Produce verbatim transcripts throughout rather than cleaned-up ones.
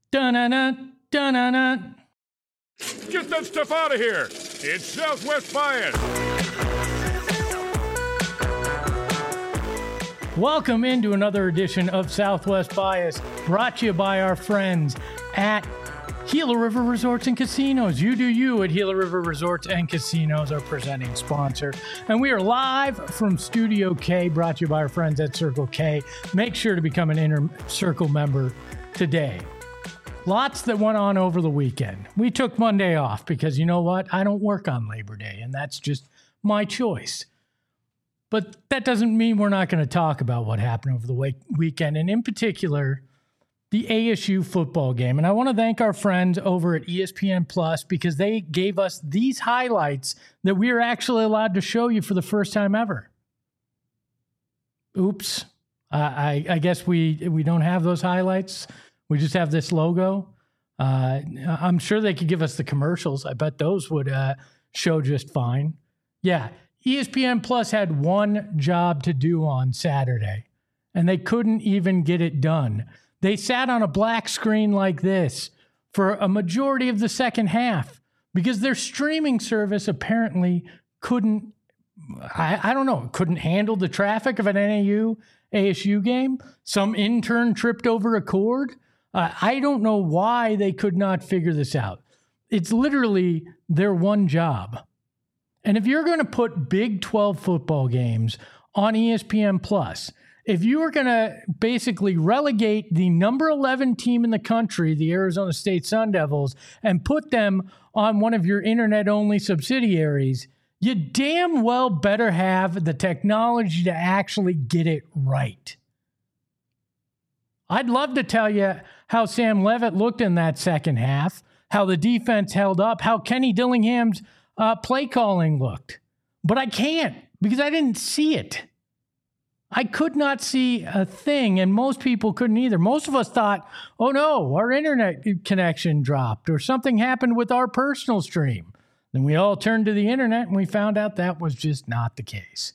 Dun-na-na, dun-na-na. Get that stuff out of here. It's Southwest Bias. Welcome into another edition of Southwest Bias, brought to you by our friends at Gila River Resorts and Casinos. You do you at Gila River Resorts and Casinos, our presenting sponsor. And we are live from Studio K, brought to you by our friends at Circle K. Make sure to become an Inner Circle member today. Lots that went on over the weekend. We took Monday off because you know what? I don't work on Labor Day, and that's just my choice. But that doesn't mean we're not going to talk about what happened over the week- weekend, and in particular, the A S U football game. And I want to thank our friends over at E S P N Plus because they gave us these highlights that we are actually allowed to show you for the first time ever. Oops. Uh, I, I guess we we don't have those highlights. We just have this logo. Uh, I'm sure they could give us the commercials. I bet those would uh, show just fine. Yeah, E S P N Plus had one job to do on Saturday, and they couldn't even get it done. They sat on a black screen like this for a majority of the second half because their streaming service apparently couldn't, I, I don't know, couldn't handle the traffic of an N A U A S U game. Some intern tripped over a cord. Uh, I don't know why they could not figure this out. It's literally their one job. And if you're going to put Big twelve football games on E S P N Plus, if you are going to basically relegate the number eleven team in the country, the Arizona State Sun Devils, and put them on one of your internet-only subsidiaries, you damn well better have the technology to actually get it right. I'd love to tell you how Sam Leavitt looked in that second half, how the defense held up, how Kenny Dillingham's uh, play calling looked. But I can't because I didn't see it. I could not see a thing, and most people couldn't either. Most of us thought, oh no, our internet connection dropped or something happened with our personal stream. Then we all turned to the internet and we found out that was just not the case.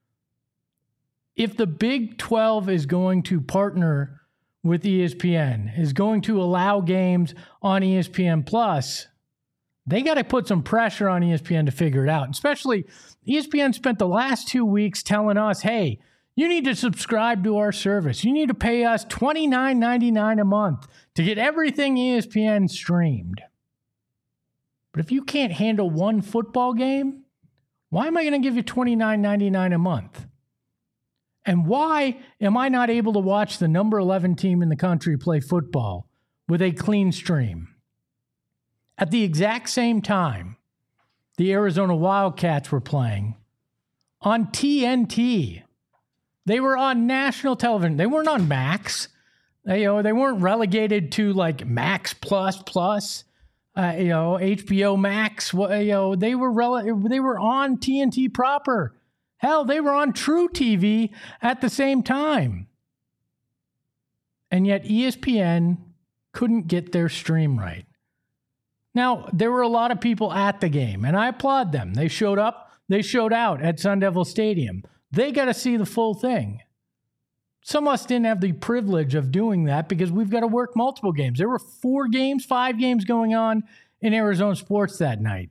If the Big twelve is going to partner with E S P N, is going to allow games on E S P N Plus, they got to put some pressure on E S P N to figure it out. Especially E S P N spent the last two weeks telling us, hey, you need to subscribe to our service. You need to pay us twenty-nine ninety-nine a month to get everything E S P N streamed. But if you can't handle one football game, why am I going to give you twenty-nine ninety-nine a month? And why am I not able to watch the number eleven team in the country play football with a clean stream? At the exact same time, the Arizona Wildcats were playing on T N T. They were on national television. They weren't on Max. They, you know, they weren't relegated to like Max Plus Plus, uh, you know, H B O Max. You know, they were rele- they were on T N T proper. Hell, they were on True T V at the same time. And yet E S P N couldn't get their stream right. Now, there were a lot of people at the game, and I applaud them. They showed up, they showed out at Sun Devil Stadium. They got to see the full thing. Some of us didn't have the privilege of doing that because we've got to work multiple games. There were four games, five games going on in Arizona sports that night.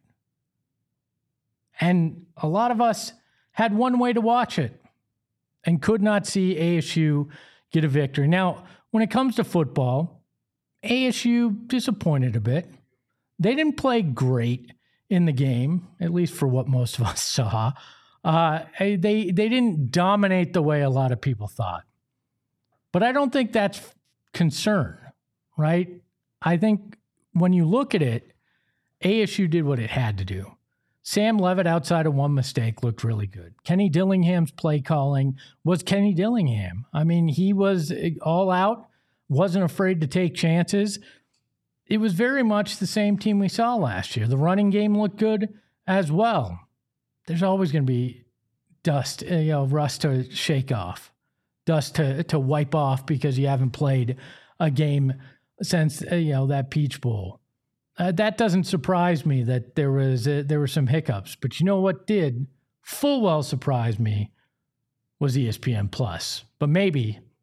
And a lot of us had one way to watch it and could not see A S U get a victory. Now, when it comes to football, A S U disappointed a bit. They didn't play great in the game, at least for what most of us saw. Uh, they they didn't dominate the way a lot of people thought. But I don't think that's concern, right? I think when you look at it, A S U did what it had to do. Sam Leavitt, outside of one mistake, looked really good. Kenny Dillingham's play calling was Kenny Dillingham. I mean, he was all out, wasn't afraid to take chances. It was very much the same team we saw last year. The running game looked good as well. There's always going to be dust, you know, rust to shake off, dust to, to wipe off because you haven't played a game since, you know, that Peach Bowl. Uh, that doesn't surprise me that there was uh, there were some hiccups. But you know what did full well surprise me was E S P N Plus. But maybe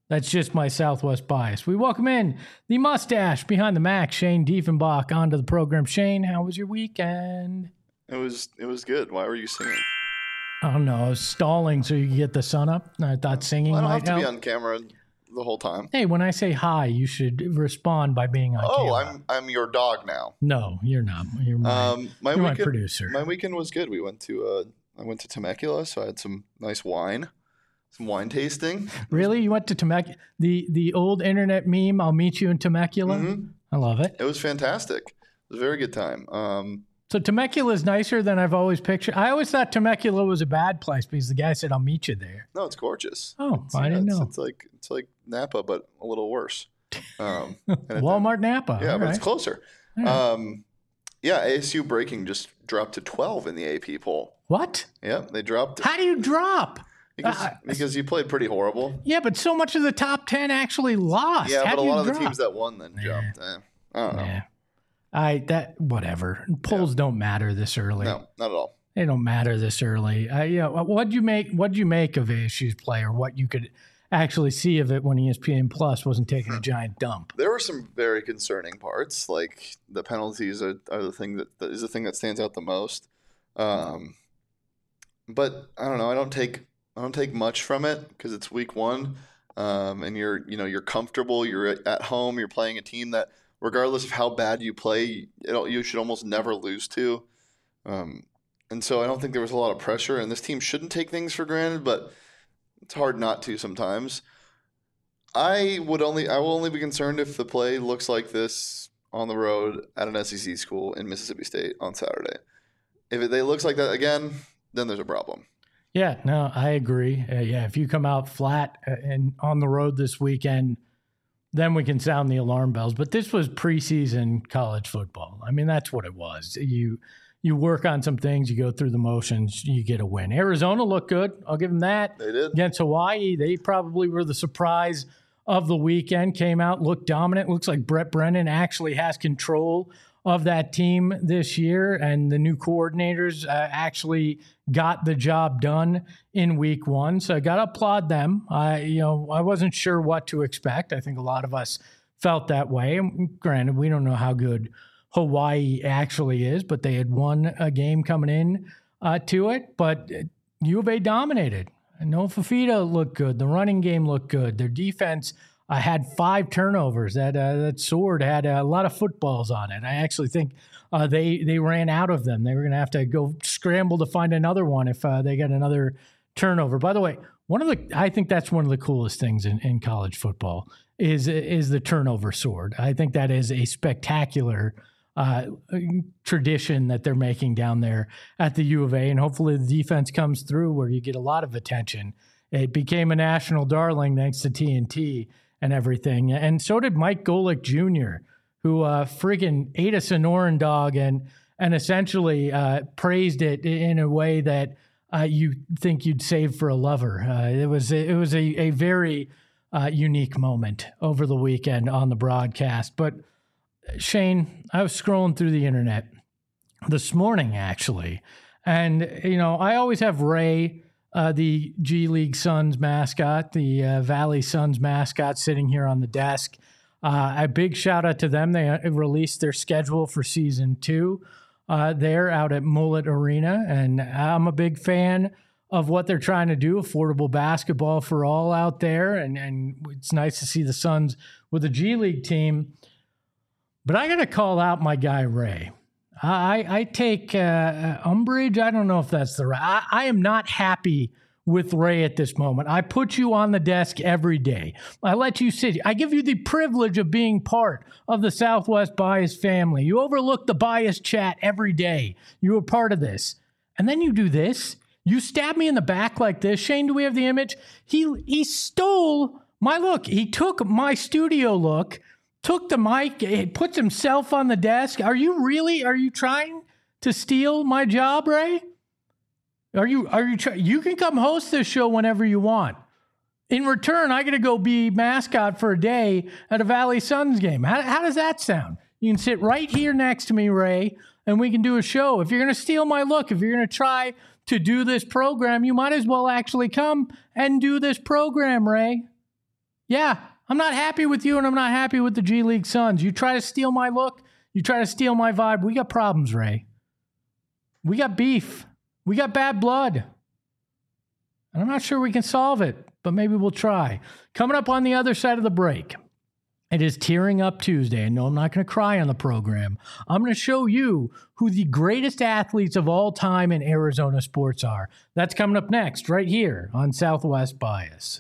That's just my Southwest bias. We welcome in the mustache behind the Mac, Shane Diefenbach, onto the program. Shane, how was your weekend? It was it was good. Why were you singing? I don't know. I was stalling so you could get the sun up. I thought singing well, I don't might have to help. be on camera the whole time. Hey, when I say hi, you should respond by being on oh, camera. I'm I'm your dog now. No, you're not. You're my, Um, my you're my weekend, producer. My weekend was good. We went to uh, I went to Temecula, so I had some nice wine, some wine tasting. Really? You went to Temecula? The the old internet meme, I'll meet you in Temecula? Mm-hmm. I love it. It was fantastic. It was a very good time. Um, So Temecula is nicer than I've always pictured. I always thought Temecula was a bad place because the guy said, I'll meet you there. no, it's gorgeous. Oh, It's, I yeah, didn't it's, know. It's like it's like Napa, but a little worse. Um, and it- Walmart Napa. Yeah, All but right. it's closer. All right. Um, yeah, A S U breaking just dropped to twelve in the A P poll. What? Yeah, they dropped How do you drop? because uh, because you played pretty horrible. Yeah, but so much of the top ten actually lost. Yeah, How but a do you lot of the drop? teams that won then jumped. Eh, I don't know. Yeah. I that whatever. Polls don't matter this early. No, not at all. They don't matter this early. Uh, yeah, what'd you make? What'd you make of A S U's play, or what you could actually see of it when E S P N Plus wasn't taking a giant dump? There were some very concerning parts, like the penalties are, are the thing that, that is the thing that stands out the most. Um, but I don't know. I don't take I don't take much from it because it's week one, um, and you're you know you're comfortable. You're at home. You're playing a team that, regardless of how bad you play, it, you should almost never lose to. Um, and so I don't think there was a lot of pressure. And this team shouldn't take things for granted, but it's hard not to sometimes. I would only I will only be concerned if the play looks like this on the road at an S E C school in Mississippi State on Saturday. If it, it looks like that again, then there's a problem. Yeah, no, I agree. Uh, yeah, if you come out flat uh, and on the road this weekend, then we can sound the alarm bells. But this was preseason college football. I mean, that's what it was. You you work on some things, you go through the motions, you get a win. Arizona looked good. I'll give them that. They did. Against Hawaii, they probably were the surprise of the weekend. Came out, looked dominant. Looks like Brett Brennan actually has control of that team this year, and the new coordinators uh, actually got the job done in week one. So I got to applaud them. I, you know, I wasn't sure what to expect. I think a lot of us felt that way. And granted, we don't know how good Hawaii actually is, but they had won a game coming in uh, to it. But U of A dominated. Noah Fafita looked good. The running game looked good. Their defense uh, had five turnovers. That uh, that sword had a lot of footballs on it. I actually think uh, they they ran out of them. They were going to have to go scramble to find another one if uh, they got another turnover. By the way, one of the I think that's one of the coolest things in, in college football is is the turnover sword. I think that is a spectacular uh, tradition that they're making down there at the U of A, and hopefully the defense comes through where you get a lot of attention. It became a national darling thanks to T N T and everything, and so did Mike Golick Junior, who uh, friggin' ate a Sonoran dog and and essentially uh, praised it in a way that uh, you think you'd save for a lover. Uh, it was it was a, a very uh, unique moment over the weekend on the broadcast. But Shane, I was scrolling through the internet this morning, actually, and you know I always have Ray, uh, the G League Suns mascot, the uh, Valley Suns mascot, sitting here on the desk. Uh, a big shout out to them. They released their schedule for season two uh, there out at Mullet Arena, and I'm a big fan of what they're trying to do. Affordable basketball for all out there, and and it's nice to see the Suns with a G League team. But I got to call out my guy, Ray. I, I take uh, umbrage. I don't know if that's the right. I, I am not happy with Ray at this moment. I put you on the desk every day. I let you sit. I give you the privilege of being part of the Southwest Bias family. You overlook the bias chat every day. You are part of this. And then you do this. You stab me in the back like this. Shane, do we have the image? He, he stole my look. He took my studio look, took the mic, it puts himself on the desk. Are you really, are you trying to steal my job, Ray? Are you, are you, try- you can come host this show whenever you want. In return, I got to go be mascot for a day at a Valley Suns game. How, how does that sound? You can sit right here next to me, Ray, and we can do a show. If you're going to steal my look, if you're going to try to do this program, you might as well actually come and do this program, Ray. Yeah, I'm not happy with you, and I'm not happy with the G League Suns. You try to steal my look, you try to steal my vibe. We got problems, Ray. We got beef. We got bad blood. And I'm not sure we can solve it, but maybe we'll try. Coming up on the other side of the break, it is Tearing Up Tuesday. And no, I'm not going to cry on the program. I'm going to show you who the greatest athletes of all time in Arizona sports are. That's coming up next, right here on Southwest Bias.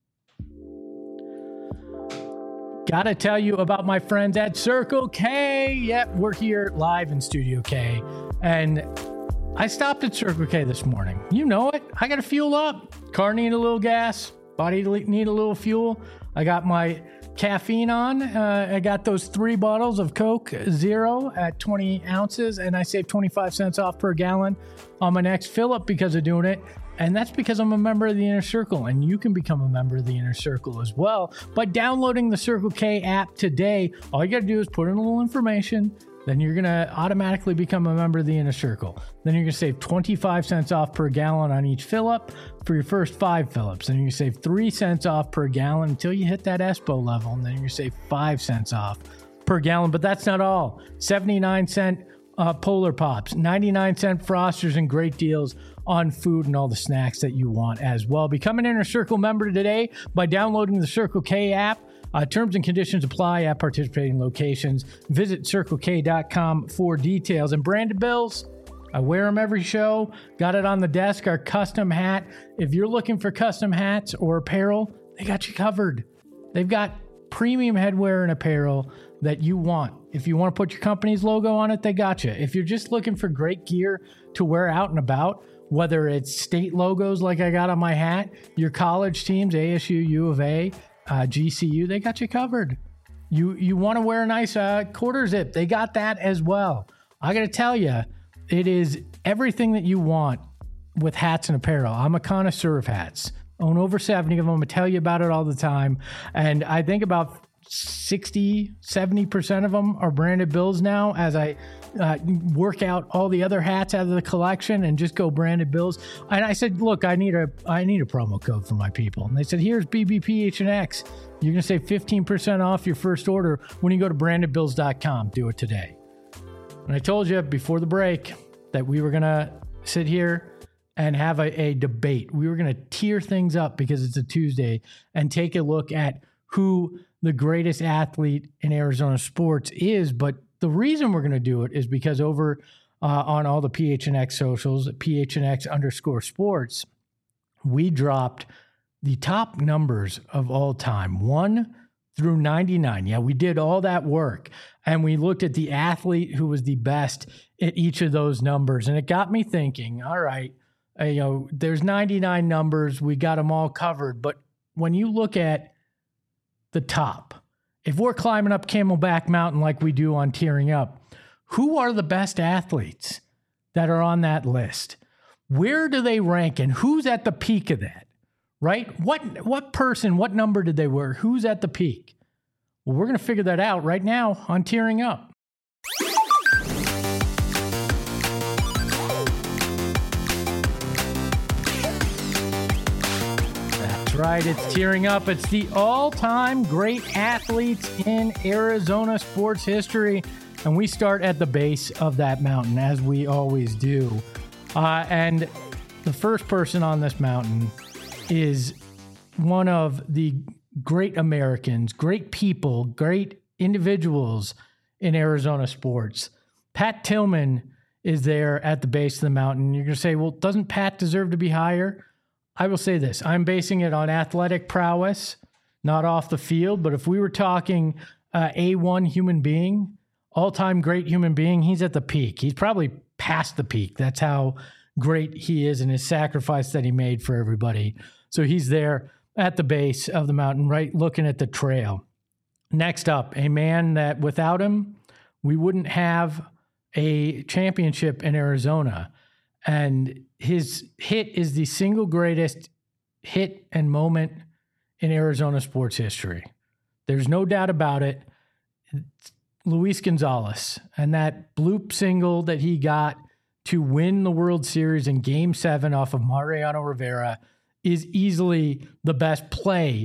Got to tell you about my friends at Circle K. Yep, we're here live in Studio K. And I stopped at Circle K this morning. You know it. I got to fuel up. Car need a little gas. Body need a little fuel. I got my caffeine on. Uh, I got those three bottles of Coke Zero at twenty ounces, and I saved twenty-five cents off per gallon on my next fill up because of doing it. And that's because I'm a member of the Inner Circle, and you can become a member of the Inner Circle as well by downloading the Circle K app today. All you got to do is put in a little information. Then you're going to automatically become a member of the Inner Circle. Then you're going to save twenty-five cents off per gallon on each fill-up for your first five fill-ups. Then you're going to save three cents off per gallon until you hit that ESPO level. And then you're going to save five cents off per gallon. But that's not all. seventy-nine cent uh, Polar Pops, ninety-nine cent Frosters, and great deals on food and all the snacks that you want as well. Become an Inner Circle member today by downloading the Circle K app. Uh, terms and conditions apply at participating locations. Visit circle k dot com for details. And branded bills, I wear them every show. Got it on the desk, our custom hat. If you're looking for custom hats or apparel, they got you covered. They've got premium headwear and apparel that you want. If you want to put your company's logo on it, they got you. If you're just looking for great gear to wear out and about, whether it's state logos like I got on my hat, your college teams, A S U, U of A, Uh, G C U, they got you covered. You you want to wear a nice uh, quarter zip, they got that as well. I got to tell you, it is everything that you want with hats and apparel. I'm a connoisseur of hats. Own over seventy of them. I tell you about it all the time. And I think about sixty, seventy percent of them are branded bills now as I uh, work out all the other hats out of the collection and just go branded bills. And I said, look, I need a I need a promo code for my people. And they said, here's B B P H N X. You're going to save fifteen percent off your first order when you go to branded bills dot com. Do it today. And I told you before the break that we were going to sit here and have a, a debate. We were going to tier things up because it's a Tuesday and take a look at who the greatest athlete in Arizona sports is. But the reason we're going to do it is because over uh, on all the P H N X socials, P H N X underscore sports, we dropped the top numbers of all time, one through ninety-nine. Yeah, we did all that work. And we looked at the athlete who was the best at each of those numbers. And it got me thinking, all right, uh, you know, there's ninety-nine numbers. We got them all covered. But when you look at the top, if we're climbing up Camelback Mountain like we do on Tearing Up, who are the best athletes that are on that list? Where do they rank and who's at the peak of that, right? What what person, what number did they wear? Who's at the peak? Well, we're going to figure that out right now on Tearing Up. Right, it's Tearing Up. It's the all-time great athletes in Arizona sports history. And we start at the base of that mountain, as we always do. Uh, and the first person on this mountain is one of the great Americans, great people, great individuals in Arizona sports. Pat Tillman is there at the base of the mountain. You're going to say, well, doesn't Pat deserve to be higher? I will say this. I'm basing it on athletic prowess, not off the field. But if we were talking uh, A one human being, all-time great human being, he's at the peak. He's probably past the peak. That's how great he is and his sacrifice that he made for everybody. So he's there at the base of the mountain, right, looking at the trail. Next up, a man that without him, we wouldn't have a championship in Arizona. And his hit is the single greatest hit and moment in Arizona sports history. There's no doubt about it. It's Luis Gonzalez and that bloop single that he got to win the World Series in Game seven off of Mariano Rivera is easily the best play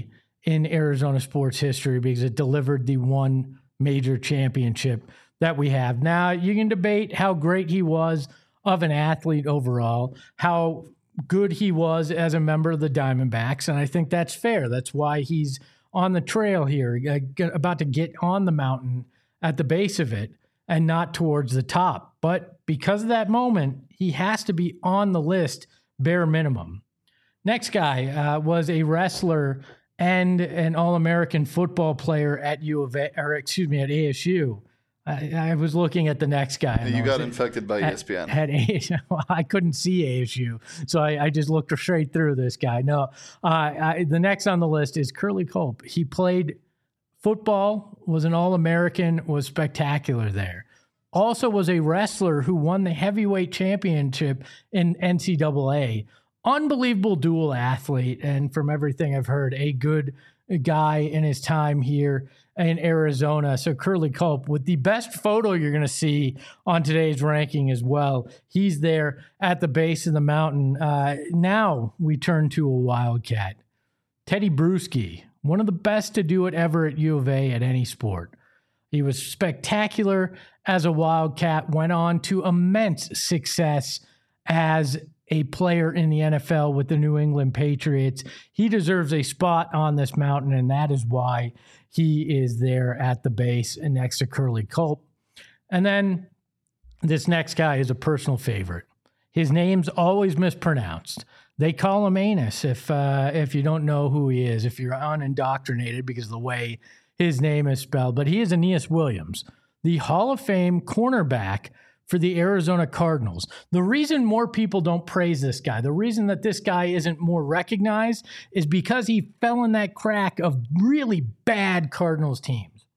in Arizona sports history because it delivered the one major championship that we have. Now, you can debate how great he was of an athlete overall, how good he was as a member of the Diamondbacks, and I think that's fair. That's why he's on the trail here, about to get on the mountain at the base of it and not towards the top. But because of that moment, he has to be on the list, bare minimum. Next guy uh, was a wrestler and an All-American football player at U of A, or excuse me, at A S U. I, I was looking at the next guy. You got infected by at, E S P N. At A S U. I couldn't see A S U, so I, I just looked straight through this guy. No, uh, I, the next on the list is Curly Culp. He played football, was an All-American, was spectacular there. Also was a wrestler who won the heavyweight championship in N C double A. Unbelievable dual athlete, and from everything I've heard, a good guy in his time here in Arizona. So Curly Culp, with the best photo you're going to see on today's ranking as well. He's there at the base of the mountain. Uh, now we turn to a Wildcat. Teddy Bruschi, one of the best to do it ever at U of A at any sport. He was spectacular as a Wildcat, went on to immense success as a player in the N F L with the New England Patriots. He deserves a spot on this mountain, and that is why he is there at the base and next to Curly Culp. And then this next guy is a personal favorite. His name's always mispronounced. They call him Anus if uh, if you don't know who he is, if you're unindoctrinated because of the way his name is spelled. But he is Aeneas Williams, the Hall of Fame cornerback for the Arizona Cardinals. The reason more people don't praise this guy, the reason that this guy isn't more recognized is because he fell in that crack of really bad Cardinals teams.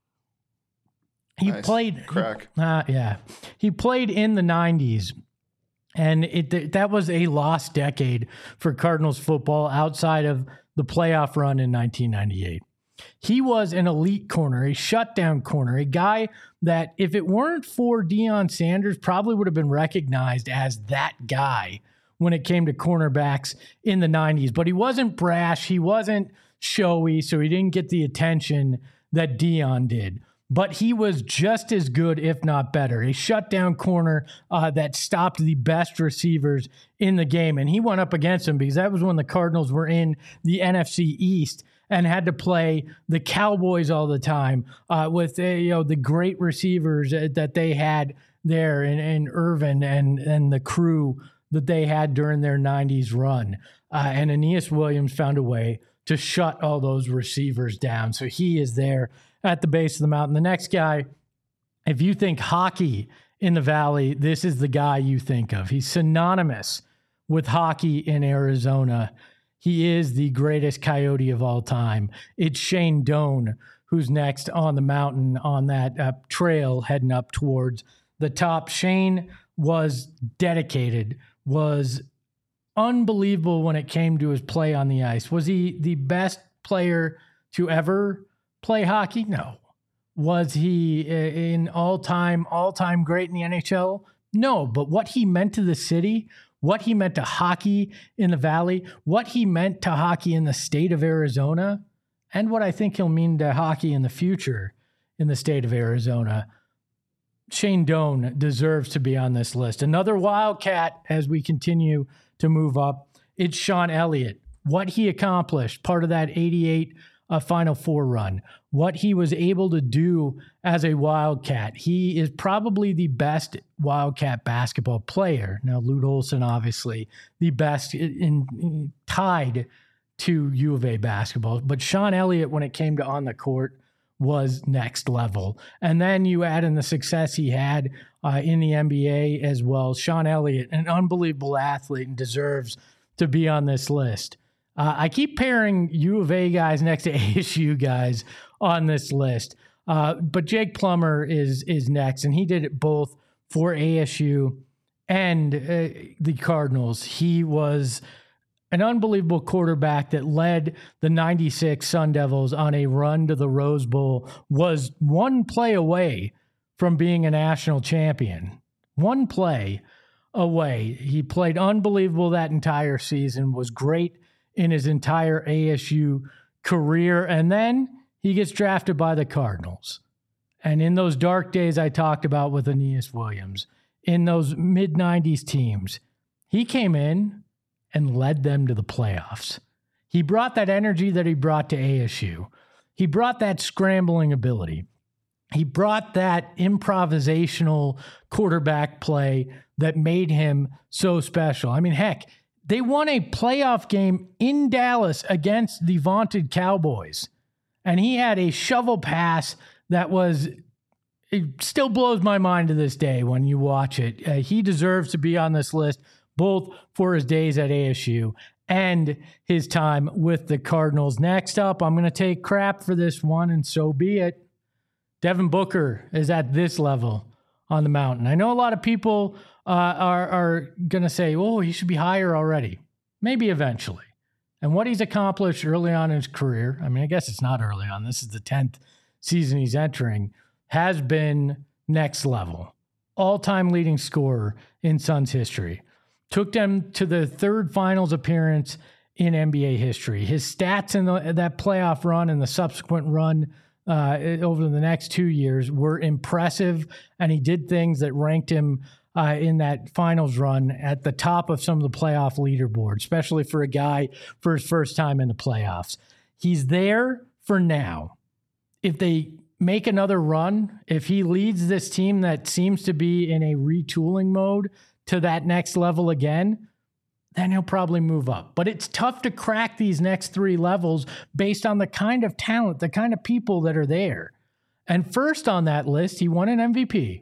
He nice. played crack. Uh, yeah. He played in the nineties. And it that was a lost decade for Cardinals football outside of the playoff run in nineteen ninety-eight. He was an elite corner, a shutdown corner, a guy that if it weren't for Deion Sanders, probably would have been recognized as that guy when it came to cornerbacks in the nineties. But he wasn't brash. He wasn't showy, so he didn't get the attention that Deion did. But he was just as good, if not better. A shutdown corner uh, that stopped the best receivers in the game. And he went up against him because that was when the Cardinals were in the N F C East and had to play the Cowboys all the time uh, with uh, you know the great receivers that they had there in, in Irvin and, and the crew that they had during their nineties run. Uh, and Aeneas Williams found a way to shut all those receivers down. So he is there at the base of the mountain. The next guy, if you think hockey in the Valley, this is the guy you think of. He's synonymous with hockey in Arizona. He is the greatest Coyote of all time. It's Shane Doan, who's next on the mountain on that uh, trail heading up towards the top. Shane was dedicated, was unbelievable when it came to his play on the ice. Was he the best player to ever play hockey? No. Was he an all-time, all-time great in the N H L? No, but what he meant to the city, what he meant to hockey in the Valley, what he meant to hockey in the state of Arizona, and what I think he'll mean to hockey in the future in the state of Arizona, Shane Doan deserves to be on this list. Another Wildcat as we continue to move up, it's Sean Elliott. What he accomplished, part of that eighty-eight a Final Four run, what he was able to do as a Wildcat. He is probably the best Wildcat basketball player. Now, Lute Olson, obviously, the best in, in tied to U of A basketball. But Sean Elliott, when it came to on the court, was next level. And then you add in the success he had uh, in the N B A as well. Sean Elliott, an unbelievable athlete and deserves to be on this list. Uh, I keep pairing U of A guys next to A S U guys on this list. Uh, but Jake Plummer is is next, and he did it both for A S U and uh, the Cardinals. He was an unbelievable quarterback that led the ninety-six Sun Devils on a run to the Rose Bowl, was one play away from being a national champion. One play away. He played unbelievable that entire season, was great in his entire A S U career. And then he gets drafted by the Cardinals. And in those dark days I talked about with Aeneas Williams, in those mid nineties teams, he came in and led them to the playoffs. He brought that energy that he brought to A S U. He brought that scrambling ability. He brought that improvisational quarterback play that made him so special. I mean, heck, they won a playoff game in Dallas against the vaunted Cowboys. And he had a shovel pass that was, it still blows my mind to this day when you watch it. Uh, he deserves to be on this list, both for his days at A S U and his time with the Cardinals. Next up, I'm going to take crap for this one, and so be it. Devin Booker is at this level on the mountain. I know a lot of people uh, are, are going to say, oh, he should be higher already. Maybe eventually. And what he's accomplished early on in his career, I mean, I guess it's not early on. This is the tenth season he's entering, has been next level. All-time leading scorer in Suns history. Took them to the third finals appearance in N B A history. His stats in the, that playoff run and the subsequent run uh, over the next two years were impressive, and he did things that ranked him uh, in that finals run at the top of some of the playoff leaderboard, especially for a guy for his first time in the playoffs. He's there for now. If they make another run, if he leads this team that seems to be in a retooling mode to that next level again, then he'll probably move up. But it's tough to crack these next three levels based on the kind of talent, the kind of people that are there. And first on that list, he won an M V P.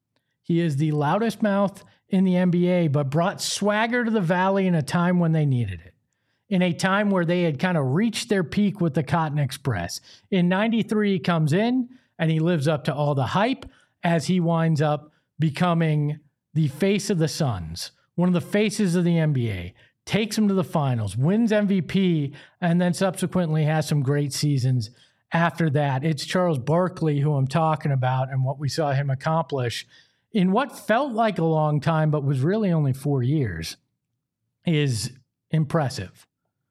He is the loudest mouth in the N B A, but brought swagger to the Valley in a time when they needed it. In a time where they had kind of reached their peak with the Cotton Express. In ninety-three, he comes in and he lives up to all the hype as he winds up becoming the face of the Suns, one of the faces of the N B A, takes them to the finals, wins M V P, and then subsequently has some great seasons after that. It's Charles Barkley who I'm talking about and what we saw him accomplish in what felt like a long time, but was really only four years, is impressive.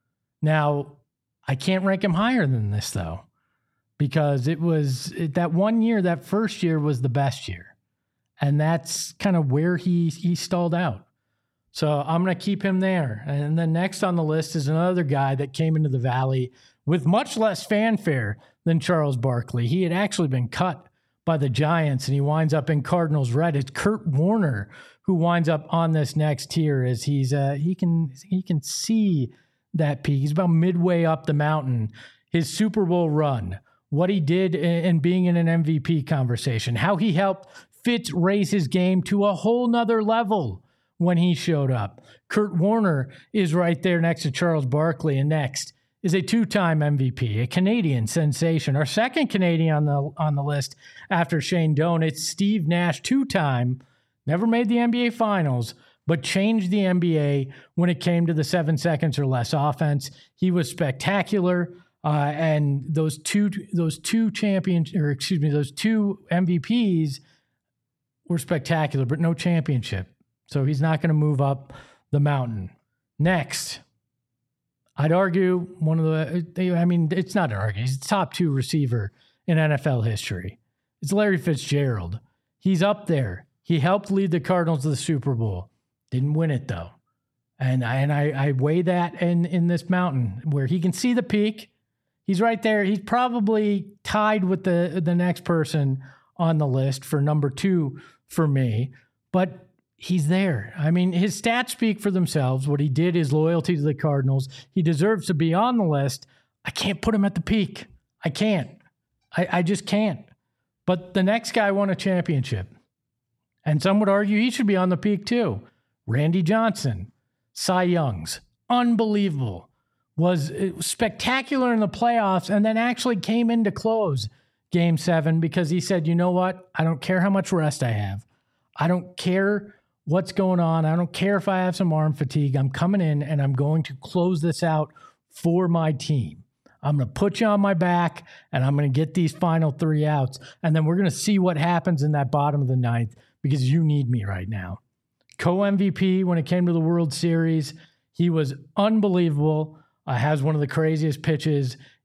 Now, I can't rank him higher than this, though, because it was it, that one year, that first year was the best year. And that's kind of where he he stalled out. So I'm going to keep him there. And then next on the list is another guy that came into the Valley with much less fanfare than Charles Barkley. He had actually been cut by the Giants, and he winds up in Cardinals red. It's Kurt Warner who winds up on this next tier as he's uh, he can he can see that peak. He's about midway up the mountain. His Super Bowl run, what he did in, in being in an M V P conversation, how he helped Fitz raise his game to a whole nother level when he showed up. Kurt Warner is right there next to Charles Barkley, and next is a two-time M V P, a Canadian sensation. Our second Canadian on the on the list after Shane Doan, it's Steve Nash, two-time, never made the N B A Finals, but changed the N B A when it came to the seven seconds or less offense. He was spectacular, uh, and those two those two champions, or excuse me, those two M V Ps were spectacular, but no championship. So he's not going to move up the mountain. Next, I'd argue one of the, I mean, it's not an argument. He's the top two receiver in N F L history. It's Larry Fitzgerald. He's up there. He helped lead the Cardinals to the Super Bowl. Didn't win it, though. And I, and I, I weigh that in, in this mountain where he can see the peak. He's right there. He's probably tied with the, the next person on the list for number two for me, but he's there. I mean, his stats speak for themselves. What he did is loyalty to the Cardinals. He deserves to be on the list. I can't put him at the peak. I can't. I, I just can't. But the next guy won a championship. And some would argue he should be on the peak too. Randy Johnson, Cy Youngs, unbelievable. Was spectacular in the playoffs and then actually came in to close Game seven because he said, you know what? I don't care how much rest I have. I don't care what's going on. I don't care if I have some arm fatigue. I'm coming in and I'm going to close this out for my team. I'm going to put you on my back and I'm going to get these final three outs. And then we're going to see what happens in that bottom of the ninth because you need me right now. Co-M V P when it came to the World Series. He was unbelievable. Uh, has one of the craziest pitches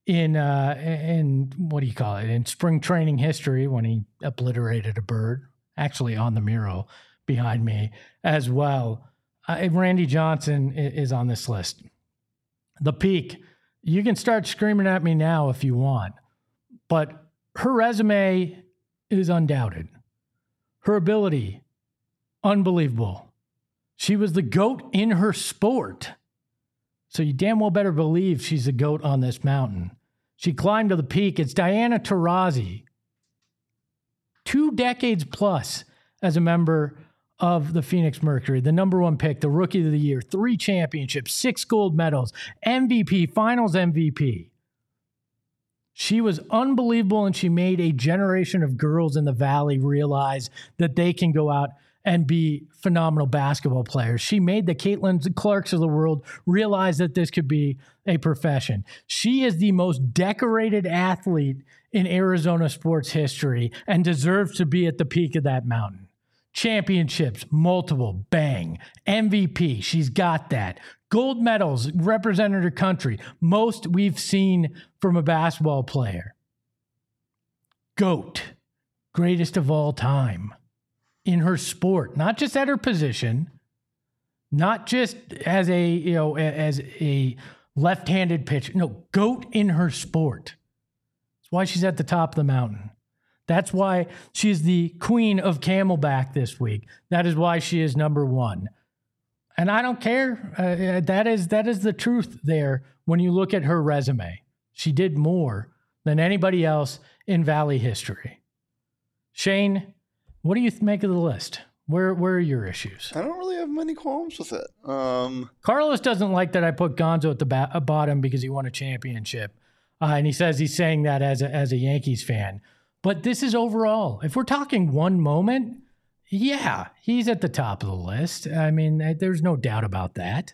in uh, in what do you call it? In spring training history when he obliterated a bird, actually on the mural behind me as well. Uh, Randy Johnson is on this list. The Peak. You can start screaming at me now if you want, but her resume is undoubted. Her ability, unbelievable. She was the GOAT in her sport. So you damn well better believe she's the GOAT on this mountain. She climbed to the peak. It's Diana Taurasi. Two decades plus as a member of the Phoenix Mercury, the number one pick, the rookie of the year, three championships, six gold medals, M V P, finals M V P. She was unbelievable, and she made a generation of girls in the Valley realize that they can go out and be phenomenal basketball players. She made the Caitlin Clarks of the world realize that this could be a profession. She is the most decorated athlete in Arizona sports history and deserves to be at the peak of that mountain. Championships, multiple, bang. M V P, she's got that. Gold medals, represented her country. Most we've seen from a basketball player. GOAT, greatest of all time in her sport, not just at her position, not just as a, you know, as a left-handed pitcher. No, GOAT in her sport. That's why she's at the top of the mountain. That's why she's the queen of Camelback this week. That is why she is number one. And I don't care. Uh, that is that is the truth there when you look at her resume. She did more than anybody else in Valley history. Shane, what do you make of the list? Where where are your issues? I don't really have many qualms with it. Um, Carlos doesn't like that I put Gonzo at the ba- bottom because he won a championship. Uh, and he says he's saying that as a, as a Yankees fan. But this is overall. If we're talking one moment, yeah, he's at the top of the list. I mean, there's no doubt about that.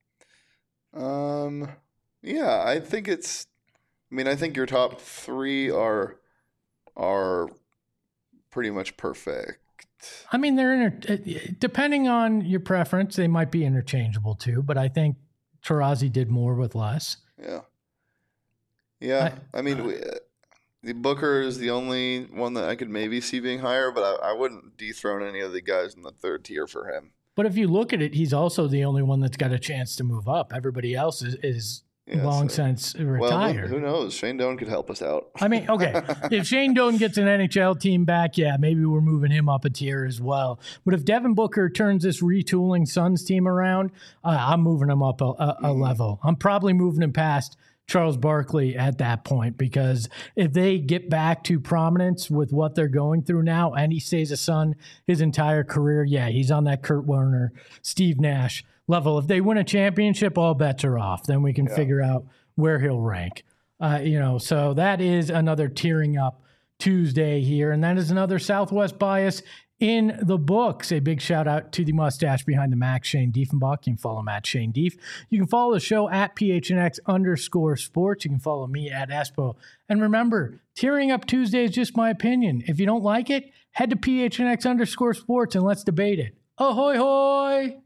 Um, yeah, I think it's. I mean, I think your top three are are pretty much perfect. I mean, they're inter- depending on your preference, they might be interchangeable too. But I think Taurasi did more with less. Yeah. Yeah, I, I mean. Uh, we, The Booker is the only one that I could maybe see being higher, but I, I wouldn't dethrone any of the guys in the third tier for him. But if you look at it, he's also the only one that's got a chance to move up. Everybody else is, is yeah, long so, since retired. Well, who, who knows? Shane Doan could help us out. I mean, okay, if Shane Doan gets an N H L team back, yeah, maybe we're moving him up a tier as well. But if Devin Booker turns this retooling Suns team around, uh, I'm moving him up a, a, a mm. level. I'm probably moving him past Charles Barkley at that point, because if they get back to prominence with what they're going through now and he stays a Sun his entire career, yeah, he's on that Kurt Warner, Steve Nash level. If they win a championship, all bets are off. Then we can yeah. figure out where he'll rank. Uh, you know, so that is another tearing up Tuesday here, and that is another Southwest bias in the books. A big shout out to the mustache behind the Mac, Shane Diefenbach. You can follow him at Shane Dief. You can follow the show at P H N X underscore sports. You can follow me at Espo. And remember, tearing up Tuesday is just my opinion. If you don't like it, head to P H N X underscore sports and let's debate it. Ahoy hoy!